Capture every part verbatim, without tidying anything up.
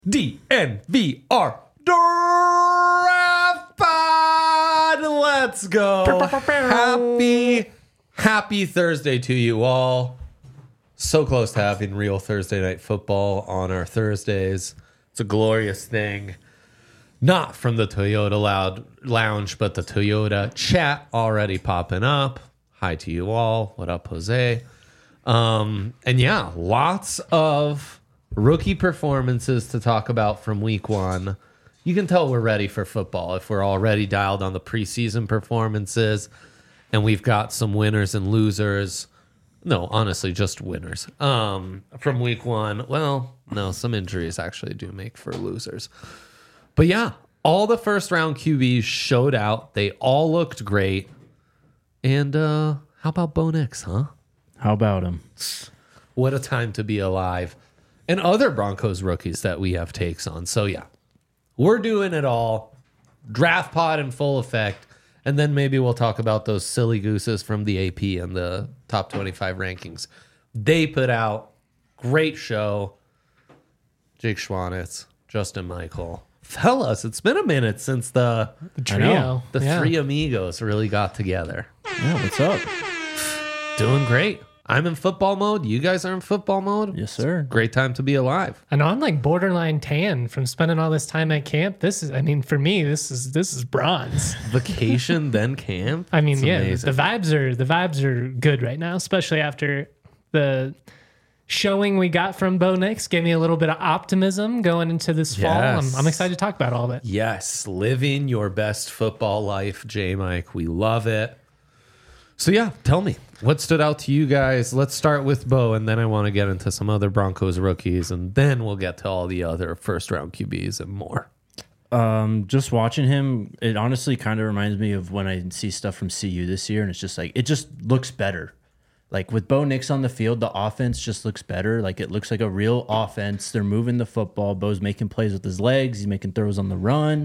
D N V R Draft Pod. Let's go. Happy, happy Thursday to you all. So close to having real Thursday night football on our Thursdays. It's a glorious thing. Not from the Toyota Loud Lounge, but the Toyota chat already popping up. Hi to you all. What up, Jose? Um, and yeah, lots of rookie performances to talk about from week one. You can tell we're ready for football if we're already dialed on the preseason performances, and we've got some winners and losers. No, honestly, just winners um, from week one. Well, no, some injuries actually do make for losers. But yeah, all the first round Q Bs showed out. They all looked great. And uh, how about Bo Nix, huh? How about him? What a time to be alive. And other Broncos rookies that we have takes on. So yeah, we're doing it all. Draft pod in full effect. And then maybe we'll talk about those silly gooses from the A P and the top twenty-five rankings. They put out great show. Jake Schwanitz, Justin Michael. Fellas, it's been a minute since the, the trio, the yeah. three amigos really got together. Yeah, what's up? Doing great. I'm in football mode. You guys are in football mode. Yes, sir. Great time to be alive. I know I'm like borderline tan from spending all this time at camp. This is, I mean, for me, this is this is bronze. Vacation, then camp. I mean, It's yeah, amazing. the vibes are the vibes are good right now, especially after the showing we got from Bo Nix. Gave me a little bit of optimism going into this fall. Yes. I'm, I'm excited to talk about all of it. Yes, living your best football life, J Mike. We love it. So yeah, tell me, what stood out to you guys? Let's start with Bo, and then I want to get into some other Broncos rookies, and then we'll get to all the other first-round Q Bs and more. Um, just watching him, it honestly kind of reminds me of when I see stuff from C U this year, and it's just like, it just looks better. Like with Bo Nix on the field, the offense just looks better. Like it looks like a real offense. They're moving the football. Bo's making plays with his legs. He's making throws on the run.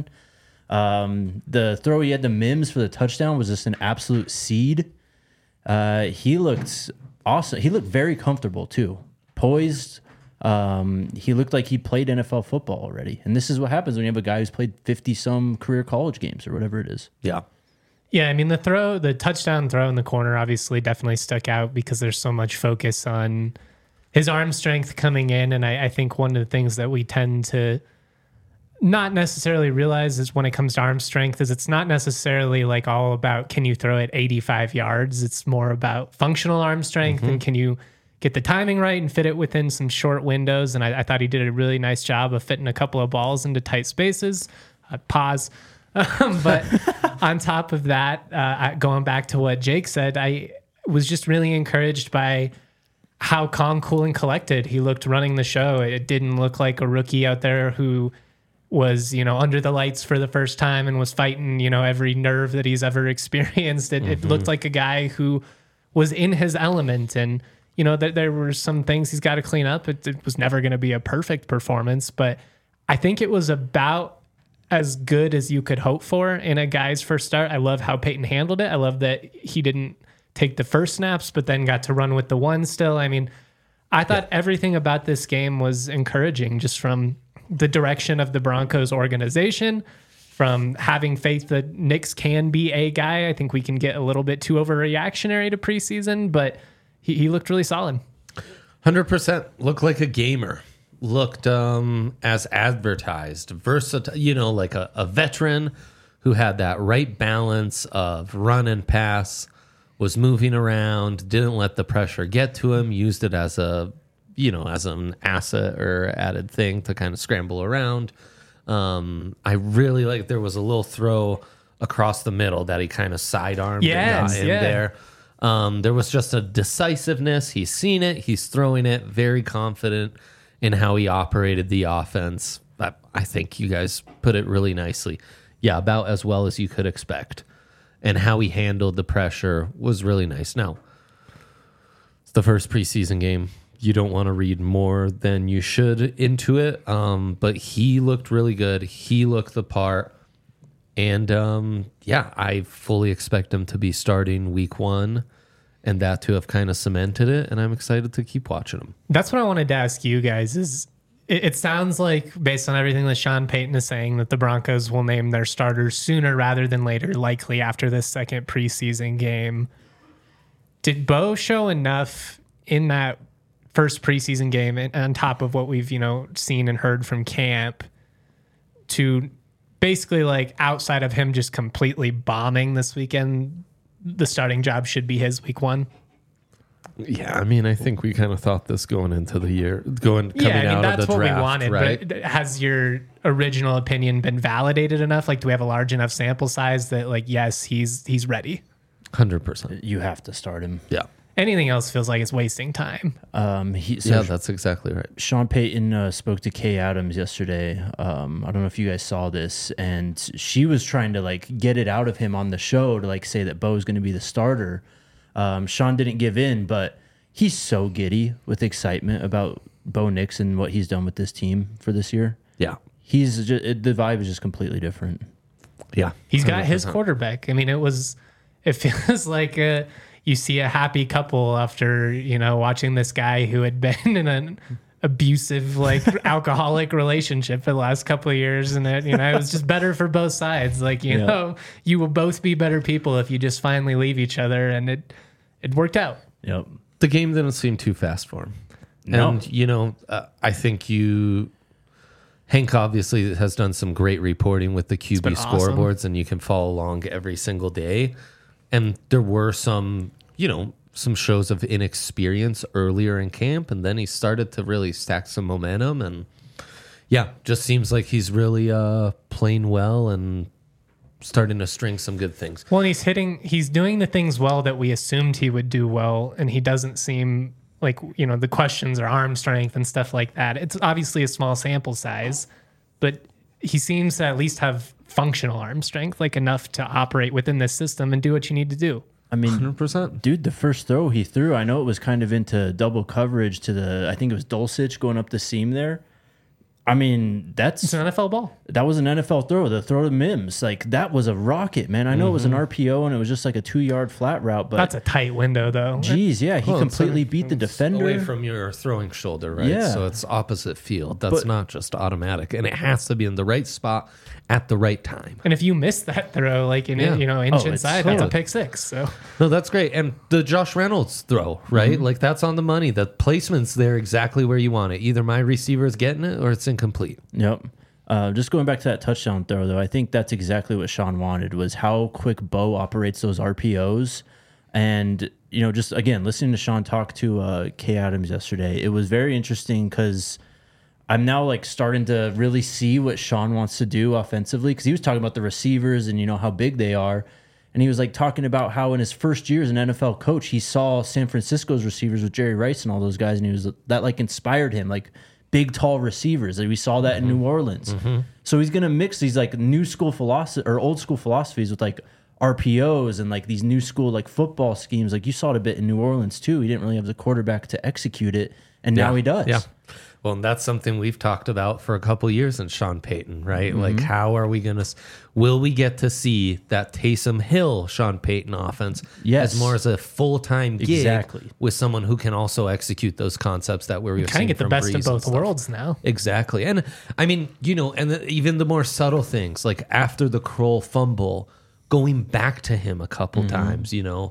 Um, the throw he had to Mims for the touchdown was just an absolute seed. Uh, he looked awesome. He looked very comfortable too, poised. Um, he looked like he played N F L football already. And this is what happens when you have a guy who's played fifty some career college games or whatever it is. Yeah. Yeah, I mean, the throw, the touchdown throw in the corner obviously definitely stuck out because there's so much focus on his arm strength coming in. And I, I think one of the things that we tend to not necessarily realize is when it comes to arm strength is it's not necessarily like all about can you throw it eighty-five yards. It's more about functional arm strength mm-hmm. and can you get the timing right and fit it within some short windows. And I, I thought he did a really nice job of fitting a couple of balls into tight spaces. Uh, pause. Um, but on top of that, uh, going back to what Jake said, I was just really encouraged by how calm, cool, and collected he looked running the show. It didn't look like a rookie out there who was, you know, under the lights for the first time and was fighting, you know, every nerve that he's ever experienced. It, mm-hmm. it looked like a guy who was in his element. And, you know, th- there were some things he's got to clean up. It, it was never going to be a perfect performance, but I think it was about as good as you could hope for in a guy's first start. I love how Peyton handled it. I love that he didn't take the first snaps, but then got to run with the one still. I mean, I thought yeah. everything about this game was encouraging just from the direction of the Broncos organization, from having faith that Nix can be a guy. I think we can get a little bit too overreactionary to preseason, but he, he looked really solid. one hundred percent. Looked like a gamer. Looked um, as advertised. Versatile, you know, like a, a veteran who had that right balance of run and pass, was moving around, didn't let the pressure get to him, used it as a you know, as an asset or added thing to kind of scramble around. Um, I really like, there was a little throw across the middle that he kind of sidearmed yes, and got in yeah. there. Um, there was just a decisiveness. He's seen it. He's throwing it, very confident in how he operated the offense. I, I think you guys put it really nicely. Yeah, about as well as you could expect. And how he handled the pressure was really nice. Now, it's the first preseason game. You don't want to read more than you should into it. Um, but he looked really good. He looked the part. And um, yeah, I fully expect him to be starting week one and that to have kind of cemented it. And I'm excited to keep watching him. That's what I wanted to ask you guys is it, it sounds like, based on everything that Sean Payton is saying, that the Broncos will name their starters sooner rather than later, likely after this second preseason game. Did Bo show enough in that first preseason game, and on top of what we've, you know, seen and heard from camp, to basically, like, outside of him just completely bombing this weekend, the starting job should be his week one? Yeah, I mean, I think we kind of thought this going into the year, going coming yeah, I mean, out that's of the what draft, we wanted. right? But has your original opinion been validated enough? Like, do we have a large enough sample size that, like, yes, he's he's ready? Hundred percent. You have to start him. Yeah. Anything else feels like it's wasting time. Um, he, so Yeah, that's exactly right. Sean Payton uh, spoke to Kay Adams yesterday. Um, I don't know if you guys saw this, and she was trying to like get it out of him on the show to like say that Bo's going to be the starter. Um, Sean didn't give in, but he's so giddy with excitement about Bo Nix and what he's done with this team for this year. Yeah. He's just, it, the vibe is just completely different. Yeah. He's got one hundred percent. his quarterback. I mean, it was, it feels like a, you see a happy couple after, you know, watching this guy who had been in an abusive, like alcoholic relationship for the last couple of years. And it, you know, it was just better for both sides. Like, you Yeah. know, you will both be better people if you just finally leave each other. And it, it worked out. Yep. The game didn't seem too fast for him. No. And, you know, uh, I think you, Hank obviously has done some great reporting with the Q B been awesome. scoreboards, and you can follow along every single day. And there were some, you know, some shows of inexperience earlier in camp, and then he started to really stack some momentum. And yeah, just seems like he's really uh, playing well and starting to string some good things. Well, and he's hitting, he's doing the things well that we assumed he would do well. And he doesn't seem like, you know, the questions are arm strength and stuff like that. It's obviously a small sample size, but he seems to at least have functional arm strength, like enough to operate within this system and do what you need to do. I mean, one hundred percent. dude, the first throw he threw, I know it was kind of into double coverage to the, I think it was Dulcich going up the seam there. I mean, that's It's an N F L ball. that was an N F L throw. The throw to Mims, like that was a rocket, man. I know it was an R P O and it was just like a two yard flat route, but That's a tight window, though. geez, yeah, he Well, it's completely a- beat the it's defender. away from your throwing shoulder, right? Yeah. So it's opposite field. That's But- not just automatic, and it has to be in the right spot at the right time. And if you miss that throw, like in Yeah. you know, inch Oh, it's inside, that's a totally- pick six. So No, that's great. And the Josh Reynolds throw, right? Like that's on the money. The placement's there exactly where you want it. Either my receiver is getting it or it's incomplete. Yep. Uh, just going back to that touchdown throw, though, I think that's exactly what Sean wanted, was how quick Bo operates those R P Os. And, you know, just, again, listening to Sean talk to uh, Kay Adams yesterday, it was very interesting because I'm now, like, starting to really see what Sean wants to do offensively, because he was talking about the receivers and, you know, how big they are. And he was, like, talking about how in his first year as an N F L coach, he saw San Francisco's receivers with Jerry Rice and all those guys, and he was that, like, inspired him, like, big, tall receivers. Like we saw that in New Orleans. So he's going to mix these like new school philosophy or old school philosophies with like R P Os and like these new school like football schemes. Like you saw it a bit in New Orleans too. He didn't really have the quarterback to execute it, and now he does. Yeah. Well, and that's something we've talked about for a couple years in Sean Payton, right? Mm-hmm. Like, how are we going to, will we get to see that Taysom Hill Sean Payton offense Yes. as more as a full time gig Exactly. with someone who can also execute those concepts that we're kind of get the best of both worlds now. Exactly. And I mean, you know, and the, even the more subtle things, like after the Kroll fumble, going back to him a couple Mm-hmm. times, you know,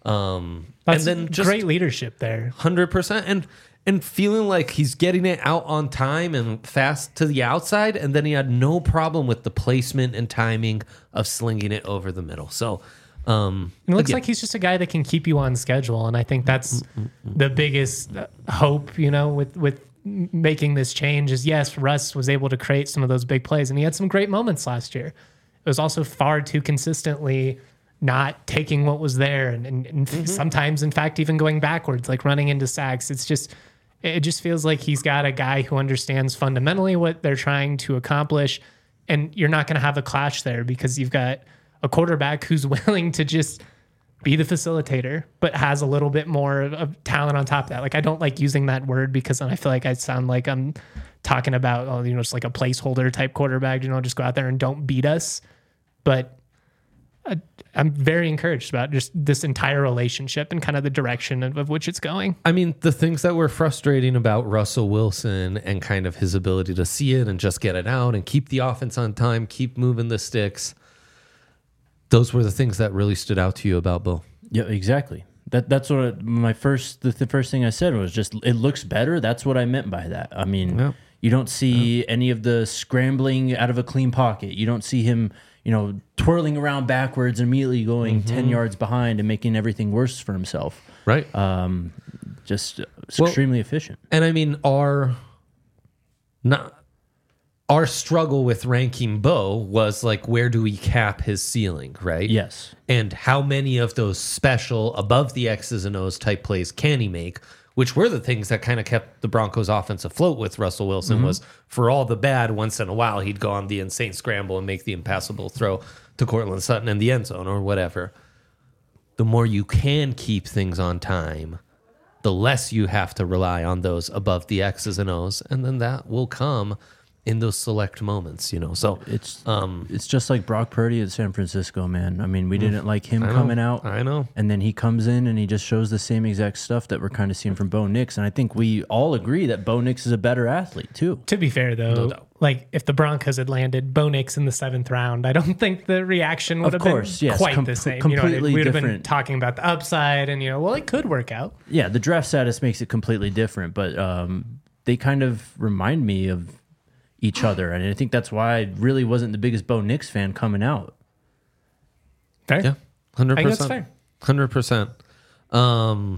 um, That's and then just great leadership there. one hundred percent. And, and feeling like he's getting it out on time and fast to the outside. And then he had no problem with the placement and timing of slinging it over the middle. So, um, It looks again, like he's just a guy that can keep you on schedule, and I think that's the biggest uh, hope, you know, with with m- making this change. Is yes, Russ was able to create some of those big plays, and he had some great moments last year. It was also far too consistently not taking what was there, and, and, and sometimes, in fact, even going backwards, like running into sacks. It's just, it just feels like he's got a guy who understands fundamentally what they're trying to accomplish, and you're not going to have a clash there because you've got a quarterback who's willing to just be the facilitator, but has a little bit more of, of talent on top of that. Like, I don't like using that word because then I feel like I sound like I'm talking about, oh, you know, just like a placeholder type quarterback, you know, just go out there and don't beat us. But uh, I'm very encouraged about just this entire relationship and kind of the direction of, of which it's going. I mean, the things that were frustrating about Russell Wilson and kind of his ability to see it and just get it out and keep the offense on time, keep moving the sticks. Those were the things that really stood out to you about Bo. Yeah, exactly. That that's what I, my first the, the first thing I said was just it looks better. That's what I meant by that. I mean, Yeah. you don't see yeah. any of the scrambling out of a clean pocket. You don't see him, you know, twirling around backwards and immediately going mm-hmm. ten yards behind and making everything worse for himself. Right. Um, just well, extremely efficient. And I mean, our not. Our struggle with ranking Bo was like, where do we cap his ceiling, right? Yes. And how many of those special above the X's and O's type plays can he make, which were the things that kind of kept the Broncos offense afloat with Russell Wilson mm-hmm. was for all the bad, once in a while, he'd go on the insane scramble and make the impassable throw to Cortland Sutton in the end zone or whatever. The more you can keep things on time, the less you have to rely on those above the X's and O's. And then that will come in those select moments, you know. So it's um, it's just like Brock Purdy at San Francisco, man. I mean, we didn't like him coming out. I know. And then he comes in and he just shows the same exact stuff that we're kind of seeing from Bo Nix. And I think we all agree that Bo Nix is a better athlete, too. To be fair, though, no doubt. Like if the Broncos had landed Bo Nix in the seventh round, I don't think the reaction would of have course, been yes, quite com- the same. Completely you know, we would have been different. talking about the upside and, you know, well, it could work out. Yeah, the draft status makes it completely different. But um, they kind of remind me of each other, and I think that's why I really wasn't the biggest Bo Nix fan coming out. Fair. Yeah, hundred I think that's percent. fair. Hundred percent. Um,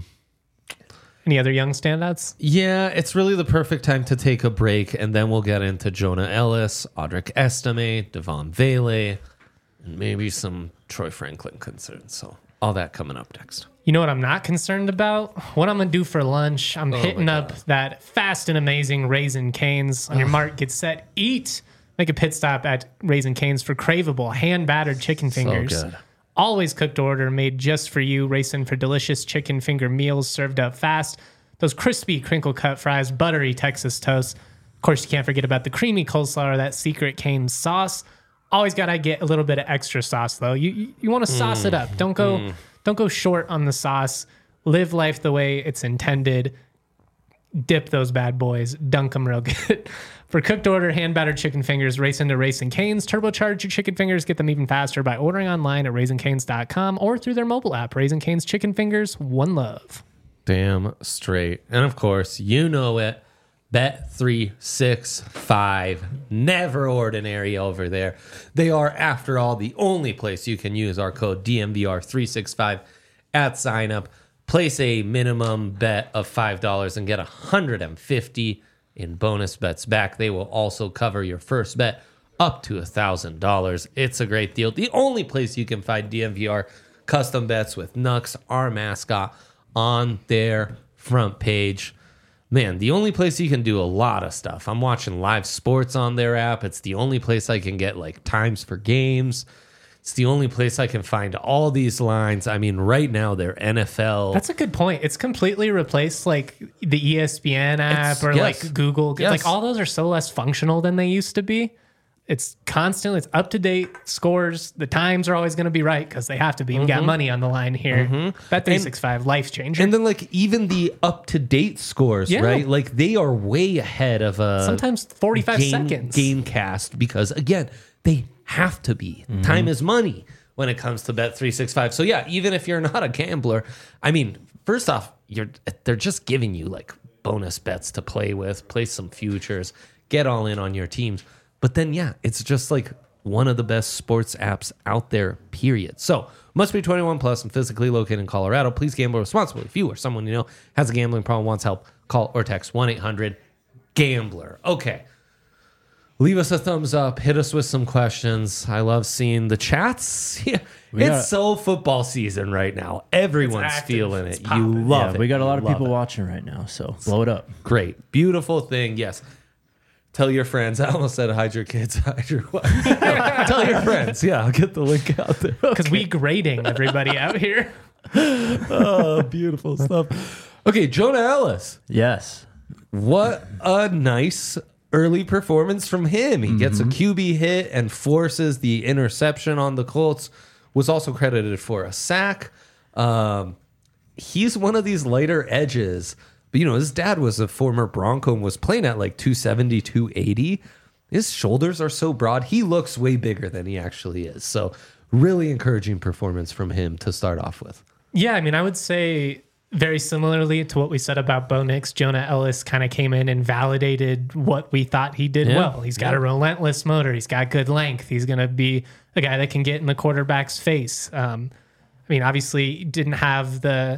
Any other young standouts? yeah, it's really the perfect time to take a break, and then we'll get into Jonah Ellis, Audric Estime, Devon Vele, and maybe some Troy Franklin concerns. So all that coming up next. You know what I'm not concerned about? What I'm going to do for lunch. I'm Oh hitting my up God. that fast and amazing Raisin Canes. On your mark, get set, eat. Make a pit stop at Raisin Canes for craveable, hand-battered chicken fingers. good. Always cooked to order, made just for you. Raisin for delicious chicken finger meals served up fast. Those crispy crinkle-cut fries, buttery Texas toast. Of course, you can't forget about the creamy coleslaw or that secret Cane's sauce. Always got to get a little bit of extra sauce, though. You you, you want to sauce Mm. it up. Don't go... Mm. Don't go short on the sauce. Live life the way it's intended. Dip those bad boys. Dunk them real good. For cooked order, hand-battered chicken fingers, race into Raisin Canes. Turbocharge your chicken fingers. Get them even faster by ordering online at raisin canes dot com or through their mobile app. Raisin Canes Chicken Fingers. One love. Damn straight. And of course, you know it. Bet three sixty-five. Never ordinary over there. They are, after all, the only place you can use our code D M V R three sixty-five at sign up. Place a minimum bet of five dollars and get one hundred fifty in bonus bets back. They will also cover your first bet up to one thousand dollars. It's a great deal. The only place you can find D M V R custom bets with Nux, our mascot, on their front page. Man, the only place you can do a lot of stuff. I'm watching live sports on their app. It's the only place I can get like times for games. It's the only place I can find all these lines. I mean, right now they're N F L. That's a good point. It's completely replaced like the E S P N app It's- or yes. like Google. Yes. Like all those are so less functional than they used to be. It's constantly, it's up to date scores. The times are always going to be right because they have to be. We Mm-hmm. got money on the line here. Bet three sixty-five, life changer. And then like even the up to date scores, Yeah. right? Like they are way ahead of a Sometimes forty-five game, seconds. Gamecast because again, they have to be. Mm-hmm. Time is money when it comes to Bet three sixty-five. So yeah, even if you're not a gambler, I mean, first off, you're they're just giving you like bonus bets to play with, play some futures, get all in on your teams. But then yeah, it's just like one of the best sports apps out there, period. So must be twenty-one plus and physically located in Colorado. Please gamble responsibly. If you or someone you know has a gambling problem, wants help, call or text one eight hundred gambler. Okay. Leave us a thumbs up. Hit us with some questions. I love seeing the chats. Yeah, it's got- so football season right now. Everyone's active. feeling It's it. You popping. love Yeah, it. we got a lot You of love people it. watching right now, so blow it up. Great. Beautiful thing. Yes. Tell your friends. I almost said hide your kids, hide your wife. Tell your friends. Yeah, I'll get the link out there. Because we grading everybody out here. Oh, beautiful stuff. Okay, Jonah Ellis. Yes. What a nice early performance from him. He gets a Q B hit and forces the interception on the Colts. was also credited for a sack. Um, he's one of these lighter edges. But, you know, his dad was a former Bronco and was playing at like two seventy, two eighty. His shoulders are so broad. He looks way bigger than he actually is. So really encouraging performance from him to start off with. Yeah, I mean, I would say very similarly to what we said about Bo Nix, Jonah Ellis kind of came in and validated what we thought he did Yeah. well. He's got Yeah. a relentless motor. He's got good length. He's going to be a guy that can get in the quarterback's face. Um, I mean, obviously didn't have the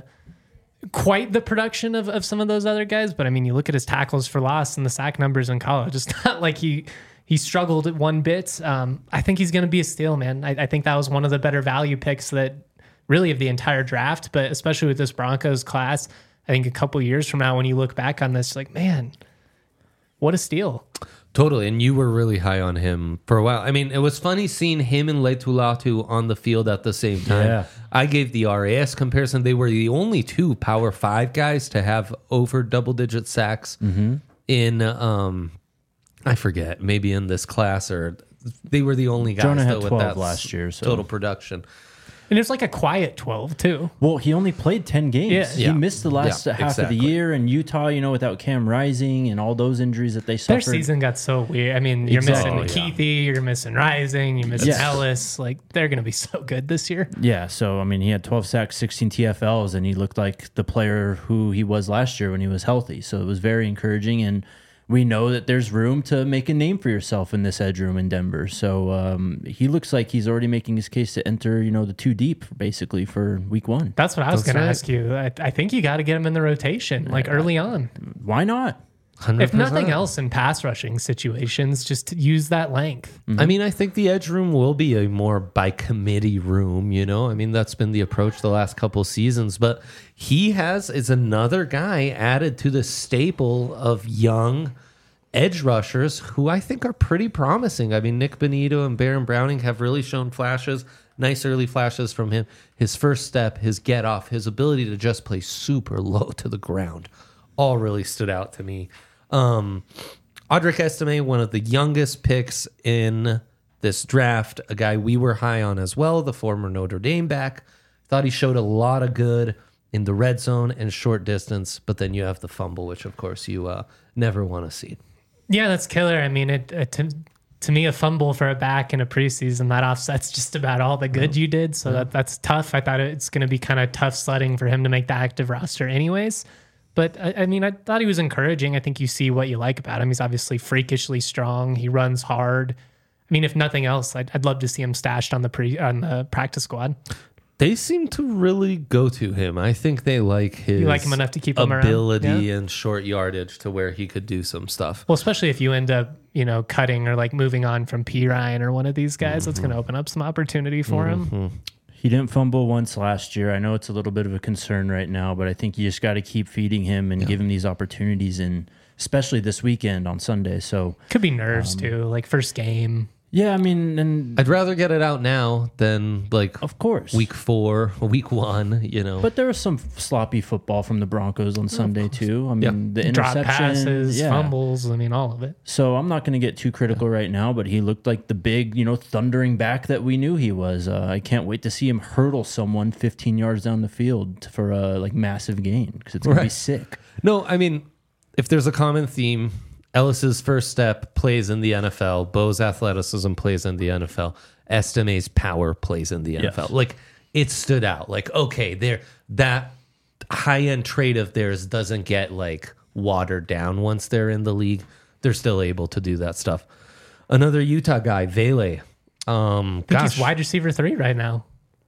quite the production of, of some of those other guys, but I mean, you look at his tackles for loss and the sack numbers in college. It's not like he he struggled at one bit. Um, I think he's going to be a steal, man. I, I think that was one of the better value picks that really of the entire draft, but especially with this Broncos class. I think a couple years from now, when you look back on this, like, man, what a steal. Totally. And you were really high on him for a while. I mean, it was funny seeing him and Leitulatu on the field at the same time. Yeah. I gave the R A S comparison. They were the only two Power Five guys to have over double digit sacks in, um, I forget, maybe in this class, or they were the only guys Jonah had though, with twelve that last year, so- total production. And it's like a quiet twelve, too. Well, he only played ten games. Yeah. He Yeah. missed the last Yeah, half exactly. of the year. And Utah, you know, without Cam Rising and all those injuries that they Their suffered. season got so weird. I mean, you're Exactly. missing Oh, yeah. Keithy, you're missing Rising, you're missing Yes. Ellis. Like, they're going to be so good this year. Yeah, so I mean, he had twelve sacks, sixteen T F Ls, and he looked like the player who he was last year when he was healthy. So it was very encouraging, and we know that there's room to make a name for yourself in this edge room in Denver. So um, he looks like he's already making his case to enter, you know, the two deep basically for week one. That's what I was That's going right. to ask you. I, I think you got to get him in the rotation, like early on. Why not? If one hundred percent. nothing else in pass rushing situations, just to use that length. I mean, I think the edge room will be a more by committee room, you know? I mean, that's been the approach the last couple seasons, but he has is another guy added to the staple of young edge rushers who I think are pretty promising. I mean, Nick Benito and Baron Browning have really shown flashes, nice early flashes from him. His first step, his get off, his ability to just play super low to the ground, all really stood out to me. Um, Audric Estime, one of the youngest picks in this draft, a guy we were high on as well, the former Notre Dame back. Thought he showed a lot of good in the red zone and short distance, but then you have the fumble, which of course you uh, never want to see. Yeah, that's killer. I mean, it, it to, to me, a fumble for a back in a preseason, that offsets just about all the good you did. So that that's tough. I thought it's going to be kind of tough sledding for him to make the active roster anyways. But I, I mean, I thought he was encouraging. I think you see what you like about him. He's obviously freakishly strong. He runs hard. I mean, if nothing else, I'd, I'd love to see him stashed on the pre on the practice squad. They seem to really go to him. I think they like his You like him enough to keep him around? ability Yeah. and short yardage to where he could do some stuff. Well, especially if you end up, you know, cutting or like moving on from P. Ryan or one of these guys, that's going to open up some opportunity for him. He didn't fumble once last year. I know it's a little bit of a concern right now, but I think you just got to keep feeding him and give him these opportunities, and especially this weekend on Sunday. So Could be nerves too, like first game. yeah, I mean, and I'd rather get it out now than like of course, week four, week one, you know. But there was some sloppy football from the Broncos on Sunday too. I mean, the Drop interception, passes, yeah. fumbles. I mean, all of it. So I'm not going to get too critical right now, but he looked like the big, you know, thundering back that we knew he was. Uh, I can't wait to see him hurdle someone fifteen yards down the field for a like massive gain, because it's going to be Right. sick. No, I mean, if there's a common theme, Ellis's first step plays in the N F L. Bo's athleticism plays in the N F L. Estime's power plays in the N F L. Yes. Like, it stood out. Like, okay, there that high-end trait of theirs doesn't get like watered down once they're in the league. They're still able to do that stuff. Another Utah guy, Vele. Um, I think gosh, he's wide receiver three right now.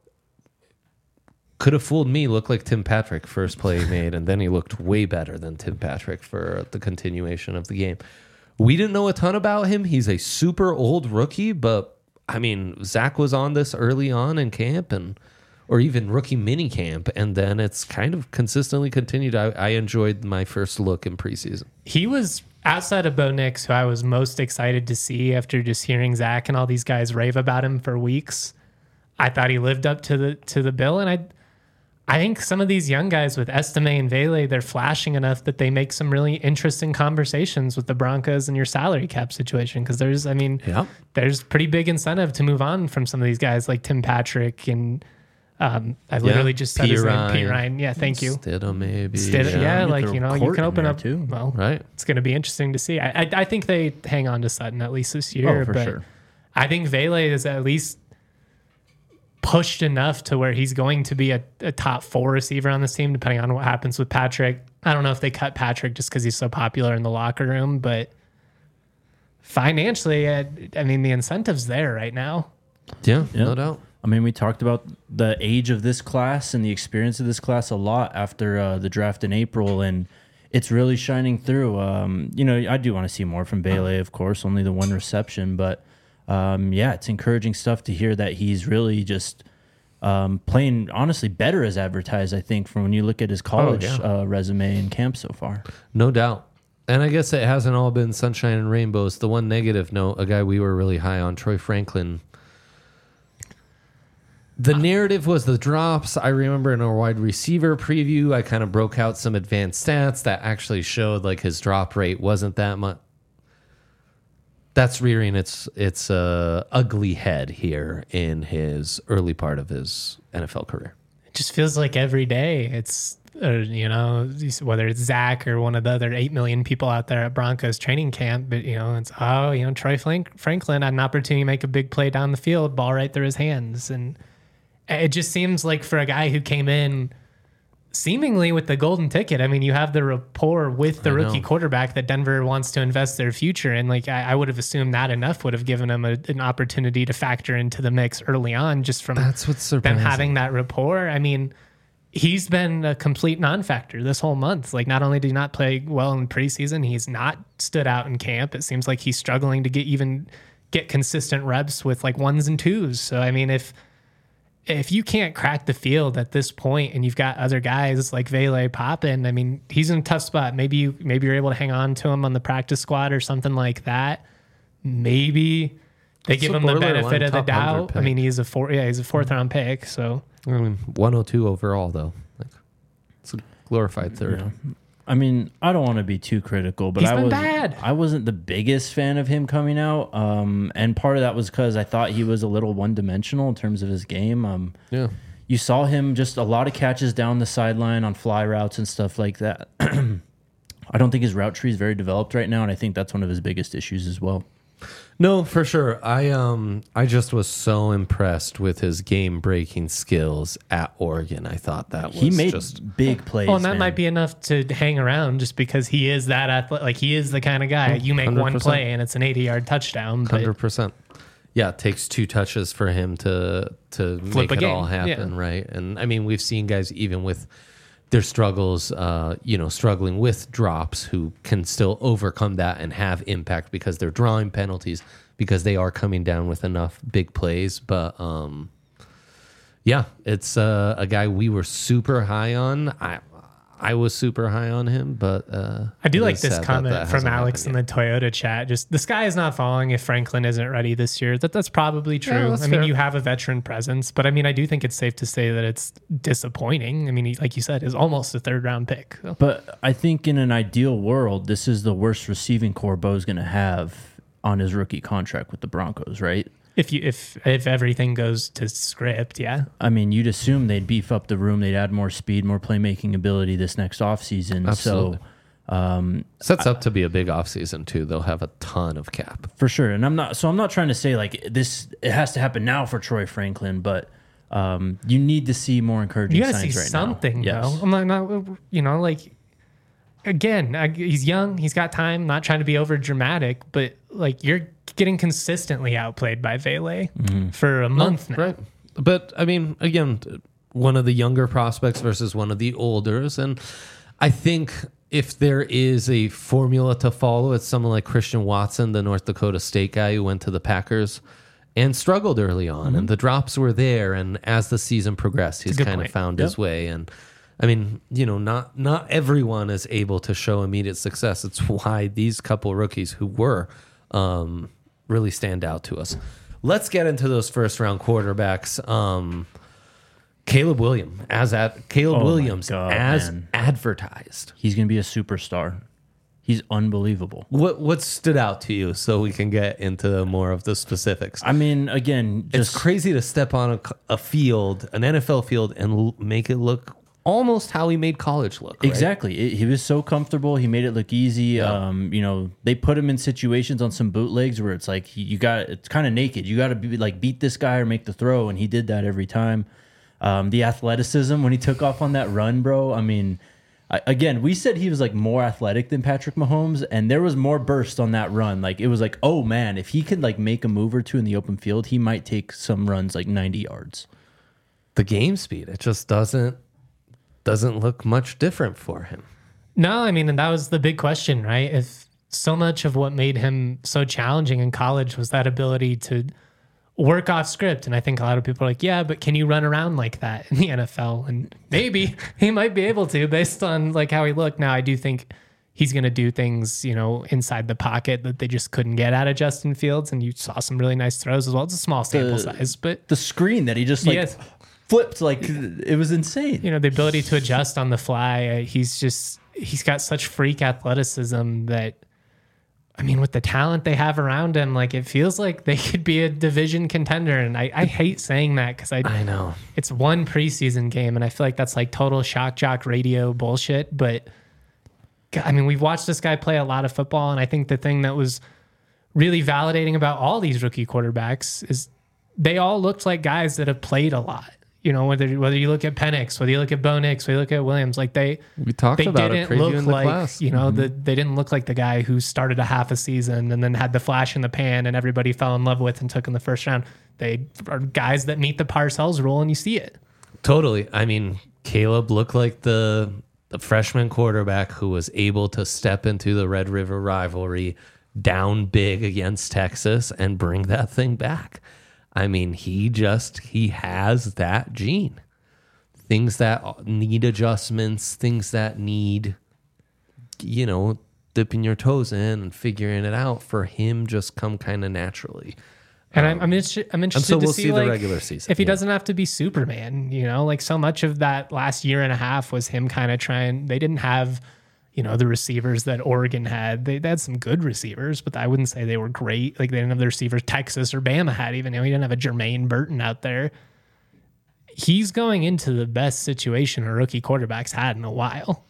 could have fooled me. Looked like Tim Patrick first play he made, and then he looked way better than Tim Patrick for the continuation of the game. We didn't know a ton about him. He's a super old rookie, but I mean, Zach was on this early on in camp, and or even rookie mini camp, and then it's kind of consistently continued. I, I enjoyed my first look in preseason. He was outside of Bo Nix, who I was most excited to see after just hearing Zach and all these guys rave about him for weeks. I thought he lived up to the to the bill, and I I think some of these young guys with Estime and Vele, they're flashing enough that they make some really interesting conversations with the Broncos and your salary cap situation. Because there's, I mean, Yeah. there's pretty big incentive to move on from some of these guys like Tim Patrick and um, I literally just said his name, Pete Ryan. Yeah, thank you. Stidham, maybe. Stidham, yeah, You like, throw you know, you Court can in open there up too. Well, Right. it's going to be interesting to see. I, I I think they hang on to Sutton at least this year. Oh, for but sure. I think Vele is at least pushed enough to where he's going to be a, a top four receiver on this team, depending on what happens with Patrick. I don't know if they cut Patrick just because he's so popular in the locker room, but financially, I, I mean, the incentive's there right now. Yeah, Yeah. no doubt. I mean, we talked about the age of this class and the experience of this class a lot after uh, the draft in April, and it's really shining through. Um, you know, I do want to see more from Bailey, of course, only the one reception, but um, yeah, it's encouraging stuff to hear that he's really just um, playing, honestly, better as advertised, I think, from when you look at his college yeah. uh, resume and camp so far. No doubt. And I guess it hasn't all been sunshine and rainbows. The one negative note, a guy we were really high on, Troy Franklin. The narrative was the drops. I remember in our wide receiver preview, I kind of broke out some advanced stats that actually showed like his drop rate wasn't that much. That's rearing its its uh, ugly head here in his early part of his N F L career. It just feels like every day it's, uh, you know, whether it's Zach or one of the other eight million people out there at Broncos training camp, but, you know, it's, oh, you know, Troy Frank- Franklin had an opportunity to make a big play down the field, ball right through his hands. And it just seems like for a guy who came in seemingly with the golden ticket, I mean, you have the rapport with the I rookie know. quarterback that Denver wants to invest their future in. Like, I, I would have assumed that enough would have given him a, an opportunity to factor into the mix early on, just from That's what's them surprising. having that rapport. I mean, he's been a complete non-factor this whole month. Like, not only did he not play well in preseason, he's not stood out in camp. It seems like he's struggling to get even get consistent reps with like ones and twos. So, I mean, if if you can't crack the field at this point and you've got other guys like Vele popping, I mean, he's in a tough spot. Maybe you maybe you're able to hang on to him on the practice squad or something like that. Maybe they It's give a him the borderline benefit of the top one hundred doubt. I pick. mean, he's a four yeah, he's a fourth round pick, so I mean, one oh two overall, though. Like, it's a glorified third. Yeah. I mean, I don't want to be too critical, but He's I been was bad. I wasn't the biggest fan of him coming out, um, and part of that was because I thought he was a little one dimensional in terms of his game. Um, Yeah. you saw him just a lot of catches down the sideline on fly routes and stuff like that. I don't think his route tree is very developed right now, and I think that's one of his biggest issues as well. No, for sure. I um I just was so impressed with his game breaking skills at Oregon. I thought that was He made just big plays. well, and that man. might be enough to hang around just because he is that athletic. Like, he is the kind of guy you make one one hundred percent. play and it's an eighty yard touchdown. But hundred percent. Yeah, it takes two touches for him to to Flip make a it game. all happen, Yeah. right? And I mean, we've seen guys even with their struggles, uh, you know, struggling with drops, who can still overcome that and have impact because they're drawing penalties, because they are coming down with enough big plays. But um, yeah, it's uh, a guy we were super high on. I I was super high on him, but uh, I do it like is this sad that comment that from hasn't Alex in happened the Toyota chat. Just, the sky is not falling if Franklin isn't ready this year. That that's probably true. that's I mean, fair. you have a veteran presence, but I mean, I do think it's safe to say that it's disappointing. I mean, he, like you said, is almost a third round pick. So. But I think in an ideal world, this is the worst receiving core Bo's going to have on his rookie contract with the Broncos, right? If you if if everything goes to script, yeah. I mean, you'd assume they'd beef up the room, they'd add more speed, more playmaking ability this next offseason. Absolutely. So, um, Sets up to be a big offseason too. They'll have a ton of cap. for sure. And I'm not, so I'm not trying to say like this, it has to happen now for Troy Franklin, but um, you need to see more encouraging You got to signs see right something, now. though. I'm not, not, you know, like, again, I, he's young, he's got time. Not trying to be over dramatic, but like, you're getting consistently outplayed by Vele for a month now. Right. But I mean, again, one of the younger prospects versus one of the olders. And I think if there is a formula to follow, it's someone like Christian Watson, the North Dakota State guy who went to the Packers and struggled early on. Mm-hmm. And the drops were there. And as the season progressed, he's good kind point. of found Yep. his way. And I mean, you know, not not everyone is able to show immediate success. It's why these couple rookies who were um, really stand out to us. Let's get into those first round quarterbacks. Um, Caleb Williams as at Caleb Oh my Williams God, as man. advertised. He's going to be a superstar. He's unbelievable. What what stood out to you so we can get into more of the specifics? I mean, again, just It's crazy to step on a, a field, an N F L field, and l- make it look almost how he made college look. Right? exactly. It, he was so comfortable. He made it look easy. Um, you know, they put him in situations on some bootlegs where it's like he, you got it's kind of naked. You got to be like beat this guy or make the throw, and he did that every time. Um, the athleticism when he took off on that run, bro. I mean, I, again, we said he was like more athletic than Patrick Mahomes, and there was more burst on that run. Like it was like, oh man, if he could like make a move or two in the open field, he might take some runs like ninety yards. The game speed, it just doesn't doesn't look much different for him. No, I mean, and that was the big question, right? If so much of what made him so challenging in college was that ability to work off script. And I think a lot of people are like, yeah, but can you run around like that in the N F L? And maybe he might be able to based on like how he looked. Now, I do think he's going to do things, you know, inside the pocket that they just couldn't get out of Justin Fields. And you saw some really nice throws as well. It's a small sample The- size, but The screen that he just like Yes. flipped, like it was insane. you know, the ability to adjust on the fly. Uh, he's just, he's got such freak athleticism that, I mean, with the talent they have around him, like it feels like they could be a division contender. And I, I hate saying that because I, I know. it's one preseason game. And I feel like that's like total shock jock radio bullshit. But God, I mean, we've watched this guy play a lot of football. And I think the thing that was really validating about all these rookie quarterbacks is they all looked like guys that have played a lot. You know, whether whether you look at Penix, whether you look at Bo Nix, whether you look at Williams, like they We talked they about it didn't previewing look the like class. you know the, they didn't look like the guy who started a half a season and then had the flash in the pan and everybody fell in love with and took in the first round. They are guys that meet the Parcells rule and you see it. Totally. I mean, Caleb looked like the the freshman quarterback who was able to step into the Red River rivalry down big against Texas and bring that thing back. I mean, he just he has that gene. Things that need adjustments, things that need, you know, dipping your toes in and figuring it out for him just come kind of naturally. And I'm I'm, inter- I'm interested so to we'll see, see the like, regular season, if he yeah. doesn't have to be Superman. You know, like so much of that last year and a half was him kind of trying. They didn't have, you know, the receivers that Oregon had. They, they had some good receivers, but I wouldn't say they were great. Like they didn't have the receivers Texas or Bama had. Even you know, he didn't have a Jermaine Burton out there. He's going into the best situation a rookie quarterback's had in a while.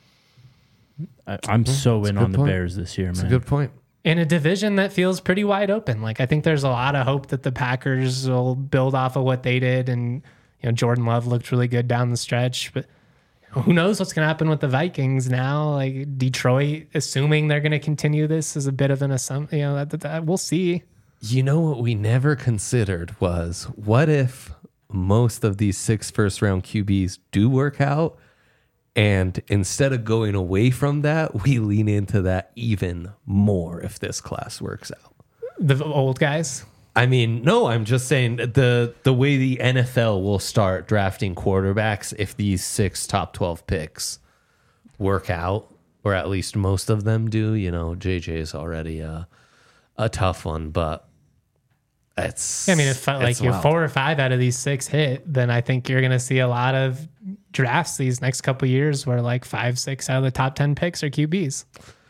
I, I'm so in good on the point. Bears this year, That's man. a good point. In a division that feels pretty wide open. Like I think there's a lot of hope that the Packers will build off of what they did. And, you know, Jordan Love looked really good down the stretch, but who knows what's going to happen with the Vikings now? Like Detroit, assuming they're going to continue this is a bit of an assumption, you know, that, that, that we'll see. You know what we never considered was what if most of these six first round Q Bs do work out, and instead of going away from that, we lean into that even more if this class works out. The old guys. I mean, no, I'm just saying the the way the N F L will start drafting quarterbacks if these six top twelve picks work out, or at least most of them do. You know, J J is already a, a tough one, but it's. I mean, if like it's you wild. four or five out of these six hit, then I think you're going to see a lot of drafts these next couple of years where like five, six out of the top ten picks are Q Bs.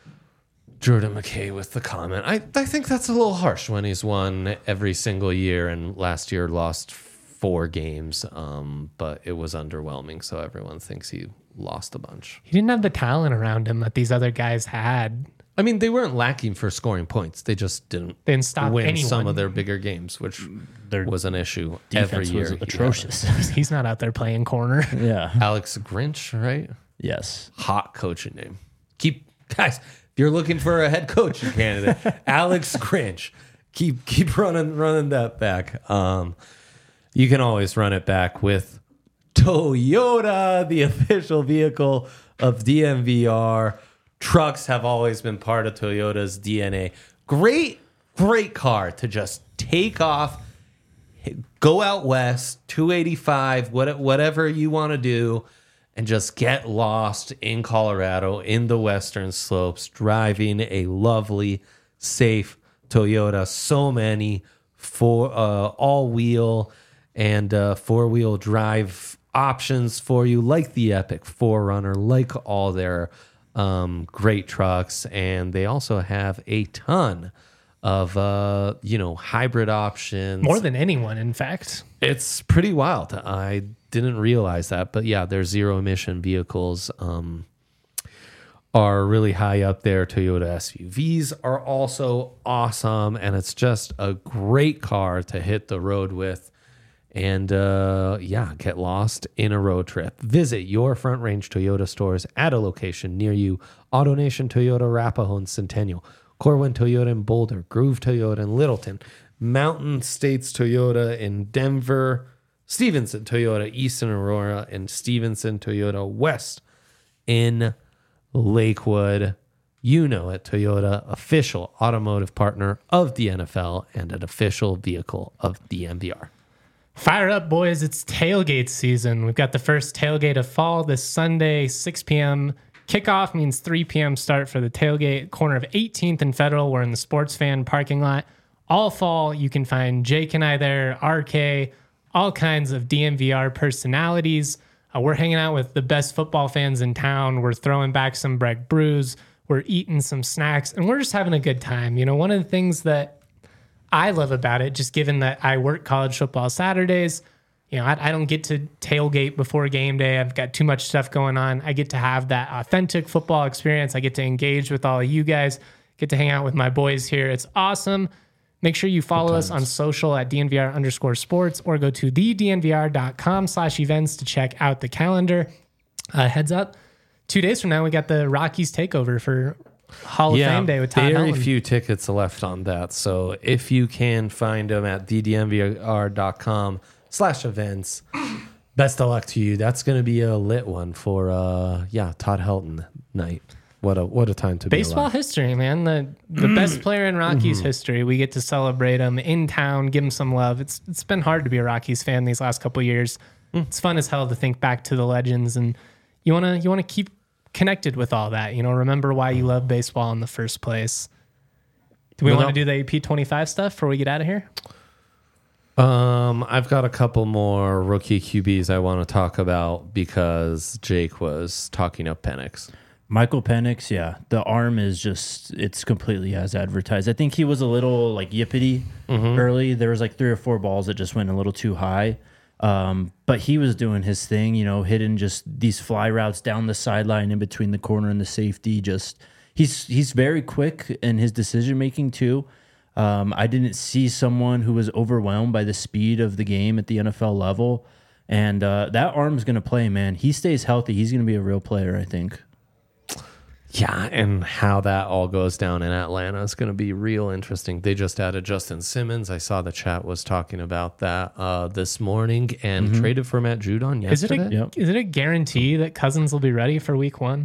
Jordan McKay with the comment. I, I think that's a little harsh when he's won every single year and last year lost four games, um, but it was underwhelming. So everyone thinks he lost a bunch. He didn't have the talent around him that these other guys had. I mean, they weren't lacking for scoring points. They just didn't They didn't stop win anyone. some of their bigger games, which Their was an issue every defense year. was he had it. atrocious. He's not out there playing corner. Yeah. Alex Grinch, right? Yes. Hot coaching name. Keep guys. If you're looking for a head coaching candidate, Alex Grinch. Keep keep running running that back. Um, you can always run it back with Toyota, the official vehicle of D M V R. Trucks have always been part of Toyota's D N A. Great, great car to just take off, go out west, two eighty-five, what, whatever you want to do, and just get lost in Colorado in the western slopes, driving a lovely, safe Toyota. So many for uh, all-wheel and uh, four-wheel drive options for you, like the Epic four runner, like all their um, great trucks. And they also have a ton of, uh, you know, hybrid options. More than anyone, in fact. It's pretty wild. I didn't realize that. But yeah, their zero emission vehicles um, are really high up there. Toyota S U Vs are also awesome. And it's just a great car to hit the road with. And uh, yeah, get lost in a road trip. Visit your Front Range Toyota stores at a location near you. AutoNation Toyota, Arapahoe and Centennial. Corwin Toyota in Boulder. Groove Toyota in Littleton. Mountain States Toyota in Denver. Stevenson Toyota East in Aurora. And Stevenson Toyota West in Lakewood. You know it, Toyota, official automotive partner of the N F L and an official vehicle of the M V R. Fire up, boys. It's tailgate season. We've got the first tailgate of fall this Sunday, six p.m. Kickoff means three p.m. start for the tailgate. Corner of eighteenth and Federal. We're in the Sports Fan parking lot. All fall, you can find Jake and I there, R K, all kinds of D M V R personalities. Uh, we're hanging out with the best football fans in town. We're throwing back some Breck brews. We're eating some snacks, and we're just having a good time. You know, one of the things that I love about it, just given that I work college football Saturdays, you know, I, I don't get to tailgate before game day. I've got too much stuff going on. I get to have that authentic football experience. I get to engage with all of you guys, get to hang out with my boys here. It's awesome. Make sure you follow us on social at DNVR underscore sports or go to the DNVR.com slash events to check out the calendar. Uh, heads up, two days from now, we got the Rockies takeover for Hall of Fame Day with Todd very Helton. few tickets left on that. So if you can find them at ddnvr.com slash events, best of luck to you. That's going to be a lit one for, uh, yeah, Todd Helton night. What a what a time to Baseball be alive. history, man. The the best player in Rockies history. We get to celebrate him in town, give him some love. It's It's been hard to be a Rockies fan these last couple of years. It's fun as hell to think back to the legends, and you wanna you wanna keep connected with all that. You know, remember why you love baseball in the first place. Do we Well, want to do the A P twenty-five stuff before we get out of here? Um, I've got a couple more rookie Q Bs I want to talk about because Jake was talking up Penix. Michael Penix, yeah, the arm is just, it's completely as advertised. I think he was a little like yippity Mm-hmm. early. There was like three or four balls that just went a little too high. Um, but he was doing his thing, you know, hitting just these fly routes down the sideline in between the corner and the safety. Just he's he's very quick in his decision making too. Um, I didn't see someone who was overwhelmed by the speed of the game at the N F L level, and uh, that arm's going to play, man. He stays healthy, he's going to be a real player, I think. Yeah, and how that all goes down in Atlanta is going to be real interesting. They just added Justin Simmons. I saw the chat was talking about that uh, this morning and traded for Matt Judon Is it yesterday. a Yep. is it a guarantee that Cousins will be ready for week one?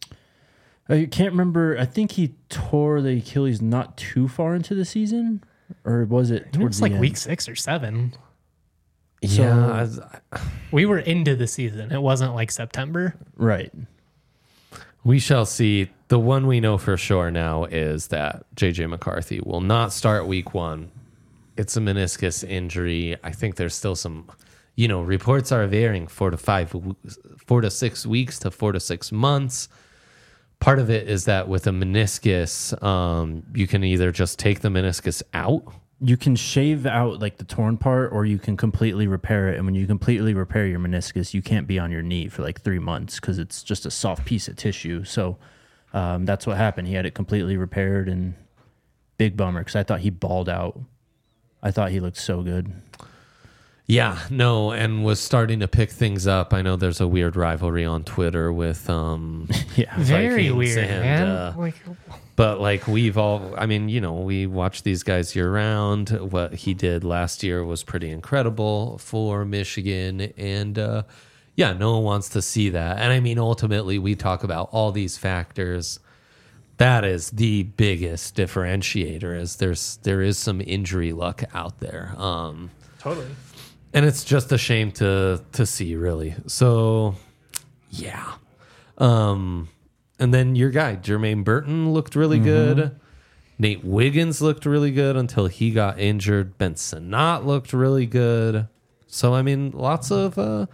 I can't remember. I think he tore the Achilles not too far into the season, or was it It towards was the like end? week six or seven. Yeah, I- We were into the season. It wasn't like September. Right. we shall see. The one we know for sure now is that J J McCarthy will not start week one. It's a meniscus injury. I think there's still some, you know, reports are varying four to five, four to six weeks to four to six months. Part of it is that with a meniscus, um, you can either just take the meniscus out. You can shave out like the torn part, or you can completely repair it. And when you completely repair your meniscus, you can't be on your knee for like three months because it's just a soft piece of tissue. So um, that's what happened. He had it completely repaired, and big bummer because I thought he balled out. I thought he looked so good. Yeah, no, and was starting to pick things up. I know there's a weird rivalry on Twitter with um, Yeah. Very Vikings weird, and, man. uh, like, But like we've all, I mean, you know, we watch these guys year round. What he did last year was pretty incredible for Michigan. And uh, yeah, no one wants to see that. And I mean, ultimately, we talk about all these factors. That is the biggest differentiator is there's there is some injury luck out there. Um, totally. and it's just a shame to to see, really. So, yeah. Um, and then your guy, Jermaine Burton, looked really good. Nate Wiggins looked really good until he got injured. Ben Sinnott looked really good. So, I mean, lots of uh,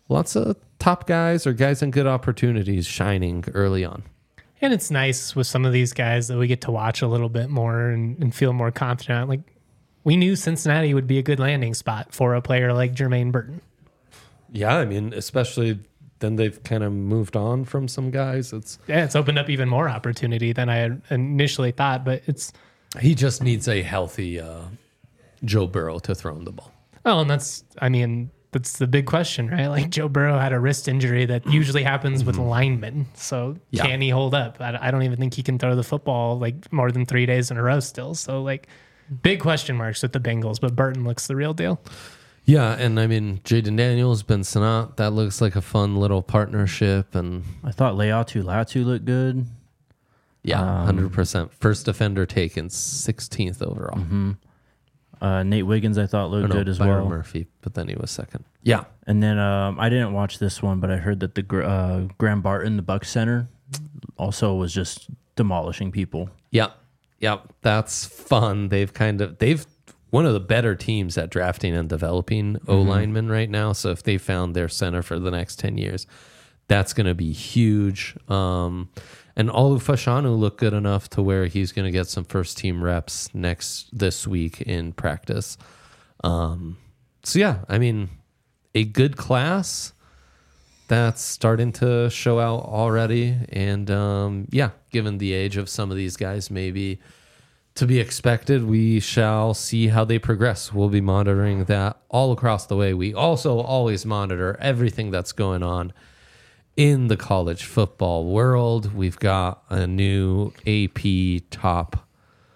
lots of top guys or guys in good opportunities shining early on. And it's nice with some of these guys that we get to watch a little bit more and, and feel more confident. Like, we knew Cincinnati would be a good landing spot for a player like Jermaine Burton. Yeah, I mean, especially then they've kind of moved on from some guys. It's Yeah, it's opened up even more opportunity than I had initially thought, but it's... He just needs a healthy uh, Joe Burrow to throw him the ball. Oh, and that's, I mean... That's the big question, right? Like Joe Burrow had a wrist injury that usually happens with linemen. So Yeah. can he hold up? I, I don't even think he can throw the football like more than three days in a row still. So like big question marks with the Bengals, but Burton looks the real deal. Yeah, and I mean, Jaden Daniels, Ben Sinnott, that looks like a fun little partnership. And I thought Leatu Latu looked good. yeah, one hundred percent. First defender taken, sixteenth overall. Mm-hmm. Uh, Nate Wiggins, I thought, looked Or no, good as Byron well. Murphy, but then he was second. Yeah. And then um, I didn't watch this one, but I heard that the Gr- uh, Graham Barton, the Bucks center, also was just demolishing people. Yeah. Yeah. That's fun. They've kind of, they've, one of the better teams at drafting and developing O linemen right now. So if they found their center for the next ten years, that's going to be huge. Um, and Olu Fashanu looked good enough to where he's going to get some first team reps next this week in practice. Um, so yeah, I mean, a good class that's starting to show out already. And um, yeah, given the age of some of these guys, maybe to be expected, we shall see how they progress. We'll be monitoring that all across the way. We also always monitor everything that's going on in the college football world. We've got a new A P top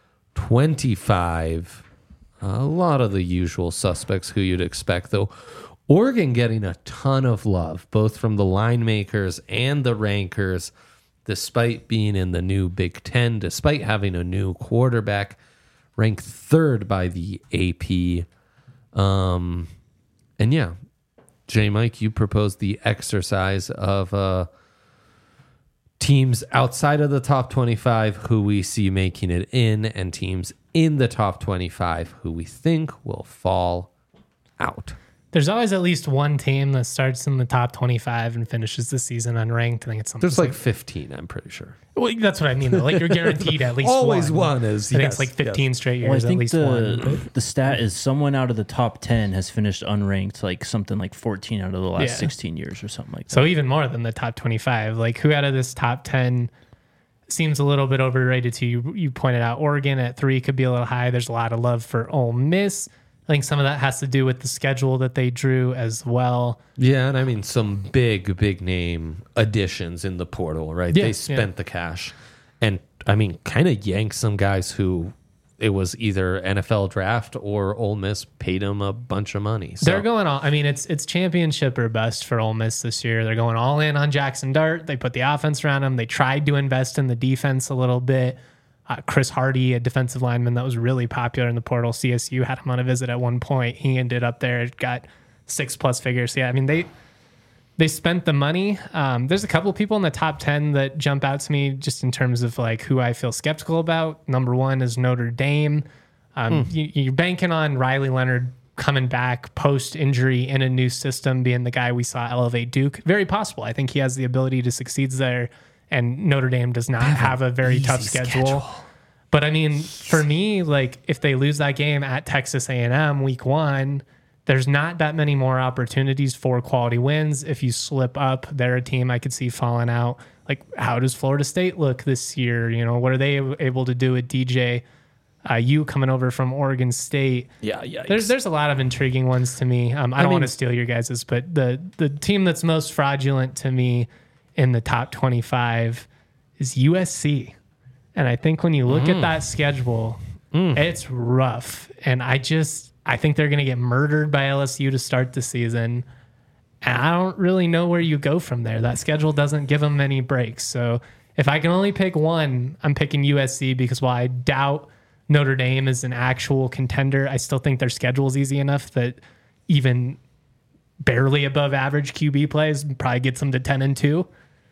twenty-five. A lot of the usual suspects who you'd expect, though. Oregon getting a ton of love, both from the line makers and the rankers, despite being in the new Big Ten, despite having a new quarterback, ranked third by the A P. Um, and yeah, J. Mike, you proposed the exercise of uh, teams outside of the top twenty-five who we see making it in, and teams in the top twenty-five who we think will fall out. There's always at least one team that starts in the top twenty-five and finishes the season unranked. I think it's something. There's like fifteen, I'm pretty sure. Well, that's what I mean, though. Like, you're guaranteed at least Always one. one is, I think yes, it's like fifteen yes. straight Well, I years, at think least the, one. the stat is someone out of the top ten has finished unranked, like something like fourteen out of the last Yeah. sixteen years or something like that. So even more than the top twenty-five. Like, who out of this top ten seems a little bit overrated to you? You pointed out Oregon at three could be a little high. There's a lot of love for Ole Miss. I think some of that has to do with the schedule that they drew as well. Yeah, and I mean some big, big name additions in the portal, right? Yeah, they spent yeah. the cash. And I mean, kind of yanked some guys who it was either N F L draft or Ole Miss paid them a bunch of money. So. They're going all, I mean, it's it's championship or bust for Ole Miss this year. They're going all in on Jackson Dart. They put the offense around him. They tried to invest in the defense a little bit. Uh, Chris Hardy, a defensive lineman that was really popular in the portal. C S U had him on a visit at one point. He ended up there, got six plus figures. Yeah, I mean, they they spent the money. Um, there's a couple of people in the top ten that jump out to me just in terms of like who I feel skeptical about. Number one is Notre Dame. Um, Hmm. you, you're banking on Riley Leonard coming back post injury in a new system, being the guy we saw elevate Duke. Very possible. I think he has the ability to succeed there. And Notre Dame does not have a very tough schedule. schedule. But I mean, for me, like if they lose that game at Texas A and M week one, there's not that many more opportunities for quality wins. If you slip up, they're a team I could see falling out. Like, how does Florida State look this year? You know, what are they able to do with D J? Uh, you coming over from Oregon State? Yeah, yeah. There's there's a lot of intriguing ones to me. Um, I don't mean- want to steal your guys's, but the the team that's most fraudulent to me in the top twenty-five is U S C. And I think when you look Mm. at that schedule, it's rough. And I just, I think they're going to get murdered by L S U to start the season. And I don't really know where you go from there. That schedule doesn't give them any breaks. So if I can only pick one, I'm picking U S C because while I doubt Notre Dame is an actual contender, I still think their schedule is easy enough that even barely above average Q B plays probably gets them to ten and two.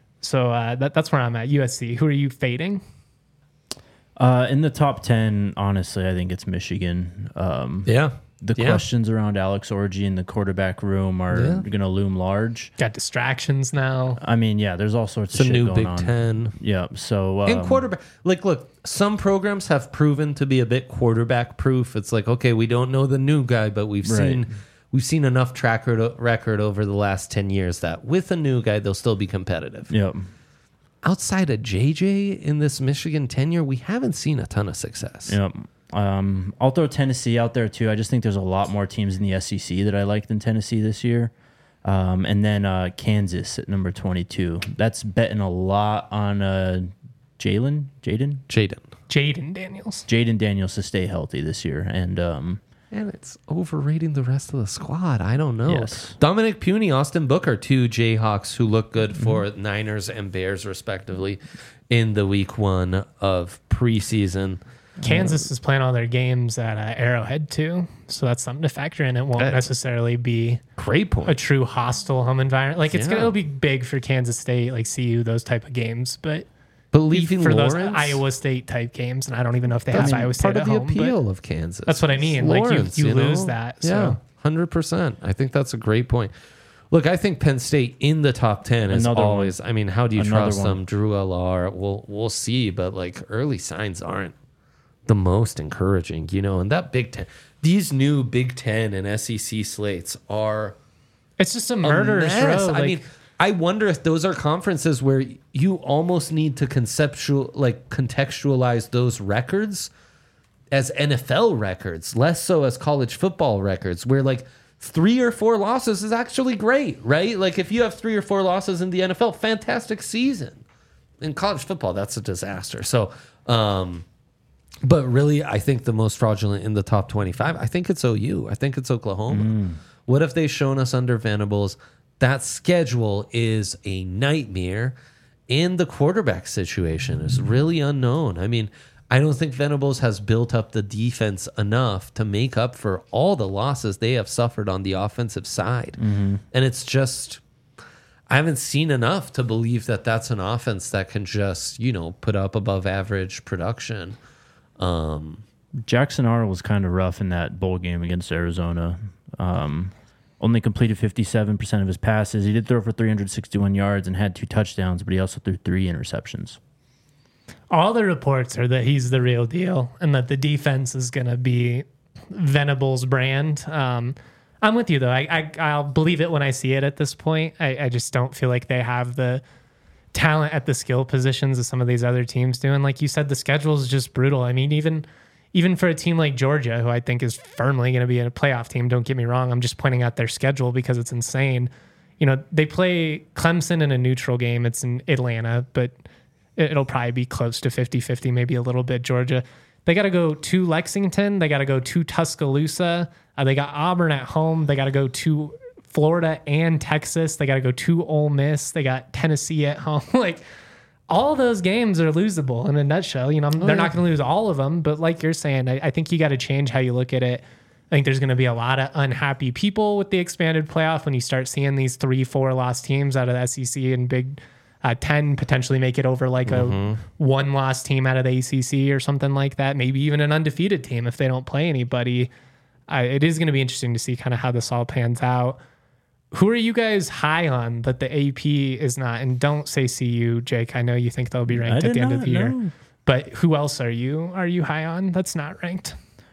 So uh, that, that's where I'm at. U S C. Who are you fading? Uh, in the top ten, honestly, I think it's Michigan. Um, Yeah. the Yeah. questions around Alex Orji in the quarterback room are Yeah. going to loom large. Got distractions now. I mean, yeah, there's all sorts It's of a shit new going Big on. Ten. Yeah, so um, And quarterback, like, look, some programs have proven to be a bit quarterback proof. It's like, okay, we don't know the new guy, but we've Right. seen we've seen enough track record record over the last ten years that with a new guy, they'll still be competitive. Yep. Outside of J J in this Michigan tenure, we haven't seen a ton of success. Yep. Um, I'll throw Tennessee out there too. I just think there's a lot more teams in the S E C that I like than Tennessee this year. Um, and then uh, Kansas at number twenty-two. That's betting a lot on uh, Jalen, Jaden, Jaden. Jaden Daniels. Jaden Daniels to stay healthy this year. And um, And it's overrating the rest of the squad. I don't know. Yes. Dominic Puny, Austin Booker, two Jayhawks who look good for mm-hmm. Niners and Bears, respectively, in the week one of preseason. Kansas is playing all their games at uh, Arrowhead, too. So that's something to factor in. It won't That- necessarily be Great point. a true hostile home environment. Like, it's Yeah. going to be big for Kansas State, like C U, those type of games. But But leaving for Lawrence, those Iowa State type games, and I don't even know if they that's have Iowa State part at of the home, but appeal of Kansas. that's what I mean. Like, you- Lawrence, you lose know? that, Yeah, so. one hundred percent. I think that's a great point. Look, I think Penn State in the top ten is Another always. I mean, how do you Another trust one. them? Drew L R. We'll we'll see, but like early signs aren't the most encouraging, you know. And that Big Ten, these new Big Ten and S E C slates are It's just a a murderous mess. row. I Like, mean, I wonder if those are conferences where you almost need to conceptual, like contextualize those records as N F L records, less so as college football records, where like three or four losses is actually great, right? Like if you have three or four losses in the N F L, fantastic season. In college football, that's a disaster. So, um, but really, I think the most fraudulent in the top twenty-five, I think it's O U. I think it's Oklahoma. Mm. What have they shown us under Venables? That schedule is a nightmare, and the quarterback situation is really unknown. I mean, I don't think Venables has built up the defense enough to make up for all the losses they have suffered on the offensive side. Mm-hmm. And it's just, I haven't seen enough to believe that that's an offense that can just, you know, put up above average production. Um, Jackson Arnold was kind of rough in that bowl game against Arizona. Um, only completed fifty-seven percent of his passes. He did throw for three hundred sixty-one yards and had two touchdowns, but he also threw three interceptions. all the reports are that he's the real deal and that the defense is going to be Venables' brand. Um, I'm with you, though. I, I, I'll believe it when I see it at this point. I, I just don't feel like they have the talent at the skill positions as some of these other teams do. And like you said, the schedule is just brutal. I mean, even even for a team like Georgia, who I think is firmly going to be a playoff team, don't get me wrong. I'm just pointing out their schedule because it's insane. You know, they play Clemson in a neutral game. It's in Atlanta, but it'll probably be close to fifty-fifty, maybe a little bit Georgia. They got to go to Lexington. They got to go to Tuscaloosa. Uh, they got Auburn at home. They got to go to Florida and Texas. They got to go to Ole Miss. They got Tennessee at home. Like, all those games are losable in a nutshell. You know, they're yeah. not going to lose all of them, but like you're saying, I, I think you got to change how you look at it. I think there's going to be a lot of unhappy people with the expanded playoff when you start seeing these three, four loss teams out of the S E C and Big uh, Ten potentially make it over like Mm-hmm. a one loss team out of the A C C or something like that. Maybe even an undefeated team if they don't play anybody. Uh, it is going to be interesting to see kind of how this all pans out. Who are you guys high on that the A P is not? And don't say C U, Jake. I know you think they'll be ranked I at the did end of not the year. know. But who else are you? Are you high on that's not ranked?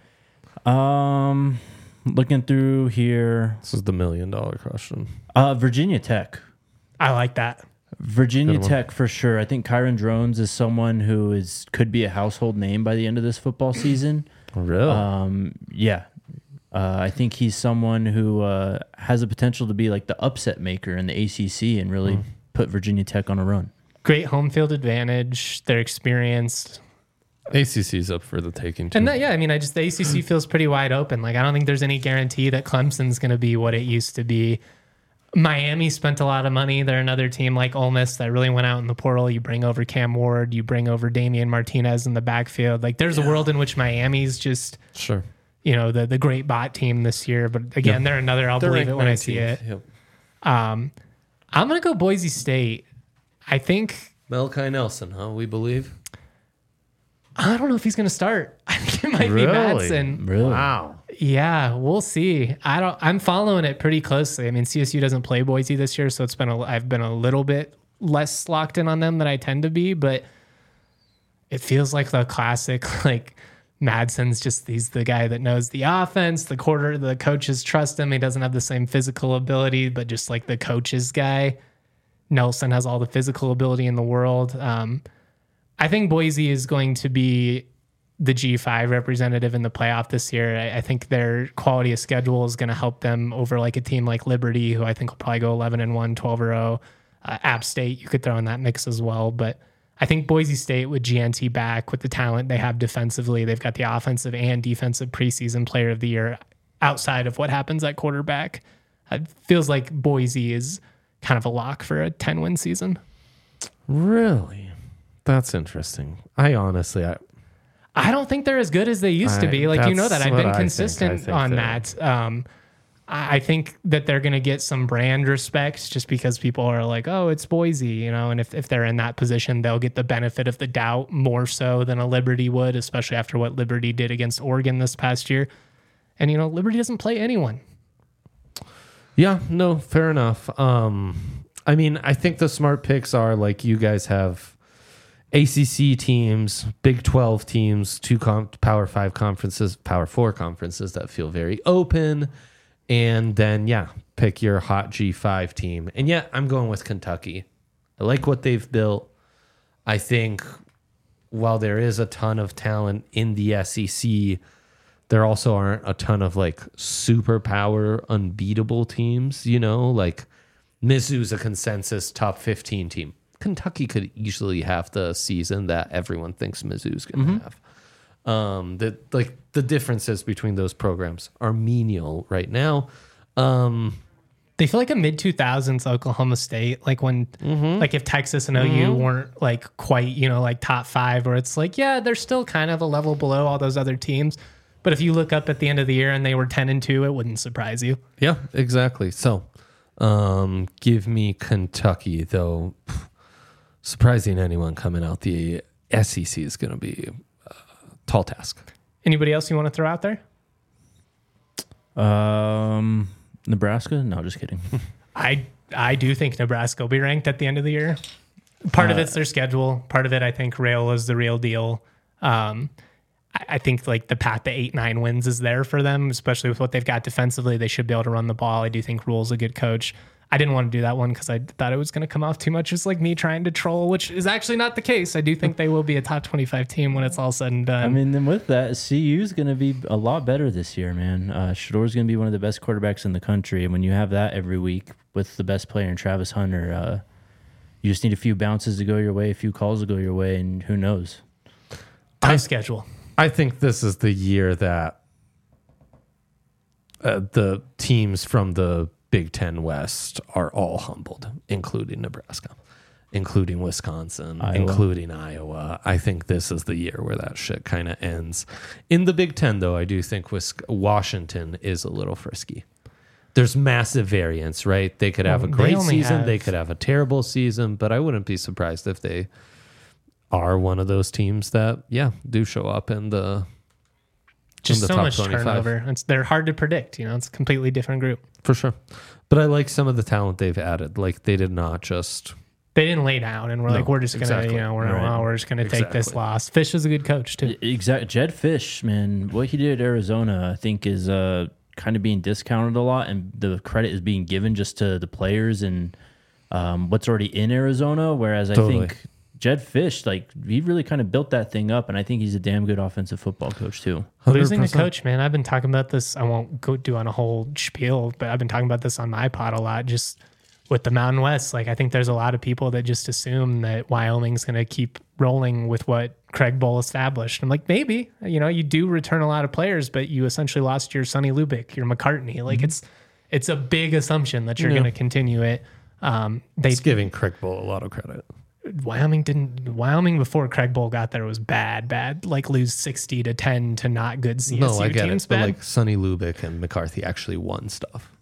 Um, looking through here, This is the million dollar question. uh, Virginia Tech. I like that. Virginia Good one. Tech for sure. I think Kyron Drones is someone who is could be a household name by the end of this football season. Really? Um, yeah. Uh, I think he's someone who uh, has the potential to be like the upset maker in the A C C and really put Virginia Tech on a run. Great home field advantage. They're experienced. A C C's up for the taking too. And that, yeah, I mean, I just, the A C C feels pretty wide open. Like, I don't think there's any guarantee that Clemson's going to be what it used to be. Miami spent a lot of money. They're another team like Ole Miss that really went out in the portal. You bring over Cam Ward, you bring over Damian Martinez in the backfield. Like, there's a world in which Miami's just, Sure. you know, the the great bot team this year. But again, they're another, I'll They're believe ranked it when I see it. nineteenth. Yep. Um, I'm going to go Boise State. I think, Malachi Nelson, huh? We believe. I don't know if he's going to start. I think it might Really? be Madsen. Really? Wow. Yeah, we'll see. I don't. I'm following it pretty closely. I mean, C S U doesn't play Boise this year, so it's been. A, I've been a little bit less locked in on them than I tend to be, but it feels like the classic. Like Madsen's just he's the guy that knows the offense. The quarter, the coaches trust him. He doesn't have the same physical ability, but just like the coach's guy. Nelson has all the physical ability in the world. Um, I think Boise is going to be the G five representative in the playoff this year. I, I think their quality of schedule is going to help them over like a team like Liberty, who I think will probably go eleven and one, twelve or oh. Uh, App State, you could throw in that mix as well. But I think Boise State with G N T back, with the talent they have defensively, they've got the offensive and defensive preseason player of the year outside of what happens at quarterback. It feels like Boise is kind of a lock for a ten-win season. Really? That's interesting. I honestly... I, I don't think they're as good as they used to be. Like, you know that. I've been consistent I think. I think on that. Um, I think that they're going to get some brand respect just because people are like, oh, it's Boise, you know, and if, if they're in that position, they'll get the benefit of the doubt more so than a Liberty would, especially after what Liberty did against Oregon this past year. And, you know, Liberty doesn't play anyone. Yeah, no, fair enough. Um, I mean, I think the smart picks are like you guys have A C C teams, Big twelve teams, two com- Power five conferences, Power four conferences that feel very open. And then, yeah, pick your hot G five team. And yeah, I'm going with Kentucky. I like what they've built. I think while there is a ton of talent in the S E C, there also aren't a ton of like superpower unbeatable teams, you know, like Mizzou's a consensus top fifteen team. Kentucky could easily have the season that everyone thinks Mizzou's going to mm-hmm. have. Um, the like the differences between those programs are menial right now. Um, they feel like a mid two thousands Oklahoma State, like when mm-hmm. like if Texas and O U mm-hmm. weren't like quite, you know, like top five, where it's like, yeah, they're still kind of a level below all those other teams. But if you look up at the end of the year and they were ten and two, it wouldn't surprise you. Yeah, exactly. So um, give me Kentucky, though. Surprising anyone coming out the S E C is going to be a tall task. Anybody else you want to throw out there? Um, Nebraska? No, just kidding. I I do think Nebraska will be ranked at the end of the year. Part uh, of it's their schedule. Part of it, I think, Rail is the real deal. Um, I, I think like the path to eight, nine wins is there for them, especially with what they've got defensively. They should be able to run the ball. I do think Rule's a good coach. I didn't want to do that one because I thought it was going to come off too much as like me trying to troll, which is actually not the case. I do think they will be a top twenty-five team when it's all said and done. I mean, then with that, C U is going to be a lot better this year, man. Uh, Shador's going to be one of the best quarterbacks in the country. And when you have that every week with the best player in Travis Hunter, uh, you just need a few bounces to go your way, a few calls to go your way, and who knows? Tough I, schedule. I think this is the year that uh, the teams from the Big Ten West are all humbled, including Nebraska, including Wisconsin, Iowa. including Iowa. I think this is the year where that shit kind of ends. In the Big Ten, though, I do think Washington is a little frisky. There's massive variance, right? They could have well, a great they season. Have... They could have a terrible season, but I wouldn't be surprised if they are one of those teams that, yeah, do show up in the Just in the so top much twenty-five. Turnover. It's, they're hard to predict. You know, it's a completely different group. For sure. But I like some of the talent they've added. Like, they did not just... They didn't lay down and we're no, like, we're just going to, exactly. you know, we're, right. well, we're just going to exactly. take this loss. Fish is a good coach, too. Exactly. Jed Fish, man, what he did at Arizona, I think, is uh, kind of being discounted a lot, and the credit is being given just to the players and um, what's already in Arizona, whereas I totally. think Jed Fish, like, he really kind of built that thing up, and I think he's a damn good offensive football coach, too. one hundred percent. Losing a coach, man, I've been talking about this. I won't go do on a whole spiel, but I've been talking about this on my pod a lot, just with the Mountain West. Like, I think there's a lot of people that just assume that Wyoming's going to keep rolling with what Craig Bowl established. I'm like, maybe, you know, you do return a lot of players, but you essentially lost your Sonny Lubick, your McCartney. Like, mm-hmm. it's it's a big assumption that you're yeah. going to continue it. Um, they it's giving Craig Bowl a lot of credit. Wyoming didn't. Wyoming before Craig Bowl got there was bad, bad. Like lose sixty to ten to not good C S U no, I get teams. it. Bad. But like Sonny Lubick and McCarthy actually won stuff.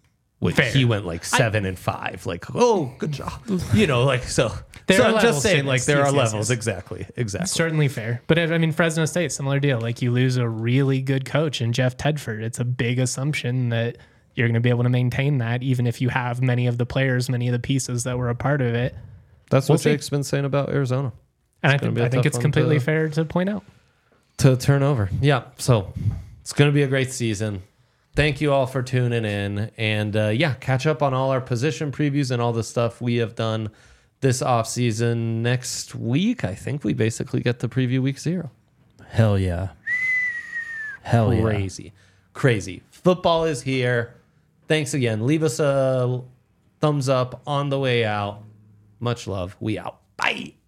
Which Fair. he went like seven I, and five. Like, oh, good job. You know, like, so. There so are I'm just saying, to like, this. there Yes, are yes, levels. yes. Exactly. Exactly. Certainly fair. But I mean, Fresno State, similar deal. Like, you lose a really good coach in Jeff Tedford. It's a big assumption that you're going to be able to maintain that, even if you have many of the players, many of the pieces that were a part of it. That's We'll what see. Jake's been saying about Arizona. And It's I think, gonna be a I think tough it's one completely to- fair to point out. to turn over. Yeah. So it's going to be a great season. Thank you all for tuning in. And uh, yeah, catch up on all our position previews and all the stuff we have done this offseason. Next week, I think we basically get to preview week zero. Hell yeah. Hell yeah. Crazy. Crazy. Football is here. Thanks again. Leave us a thumbs up on the way out. Much love. We out. Bye.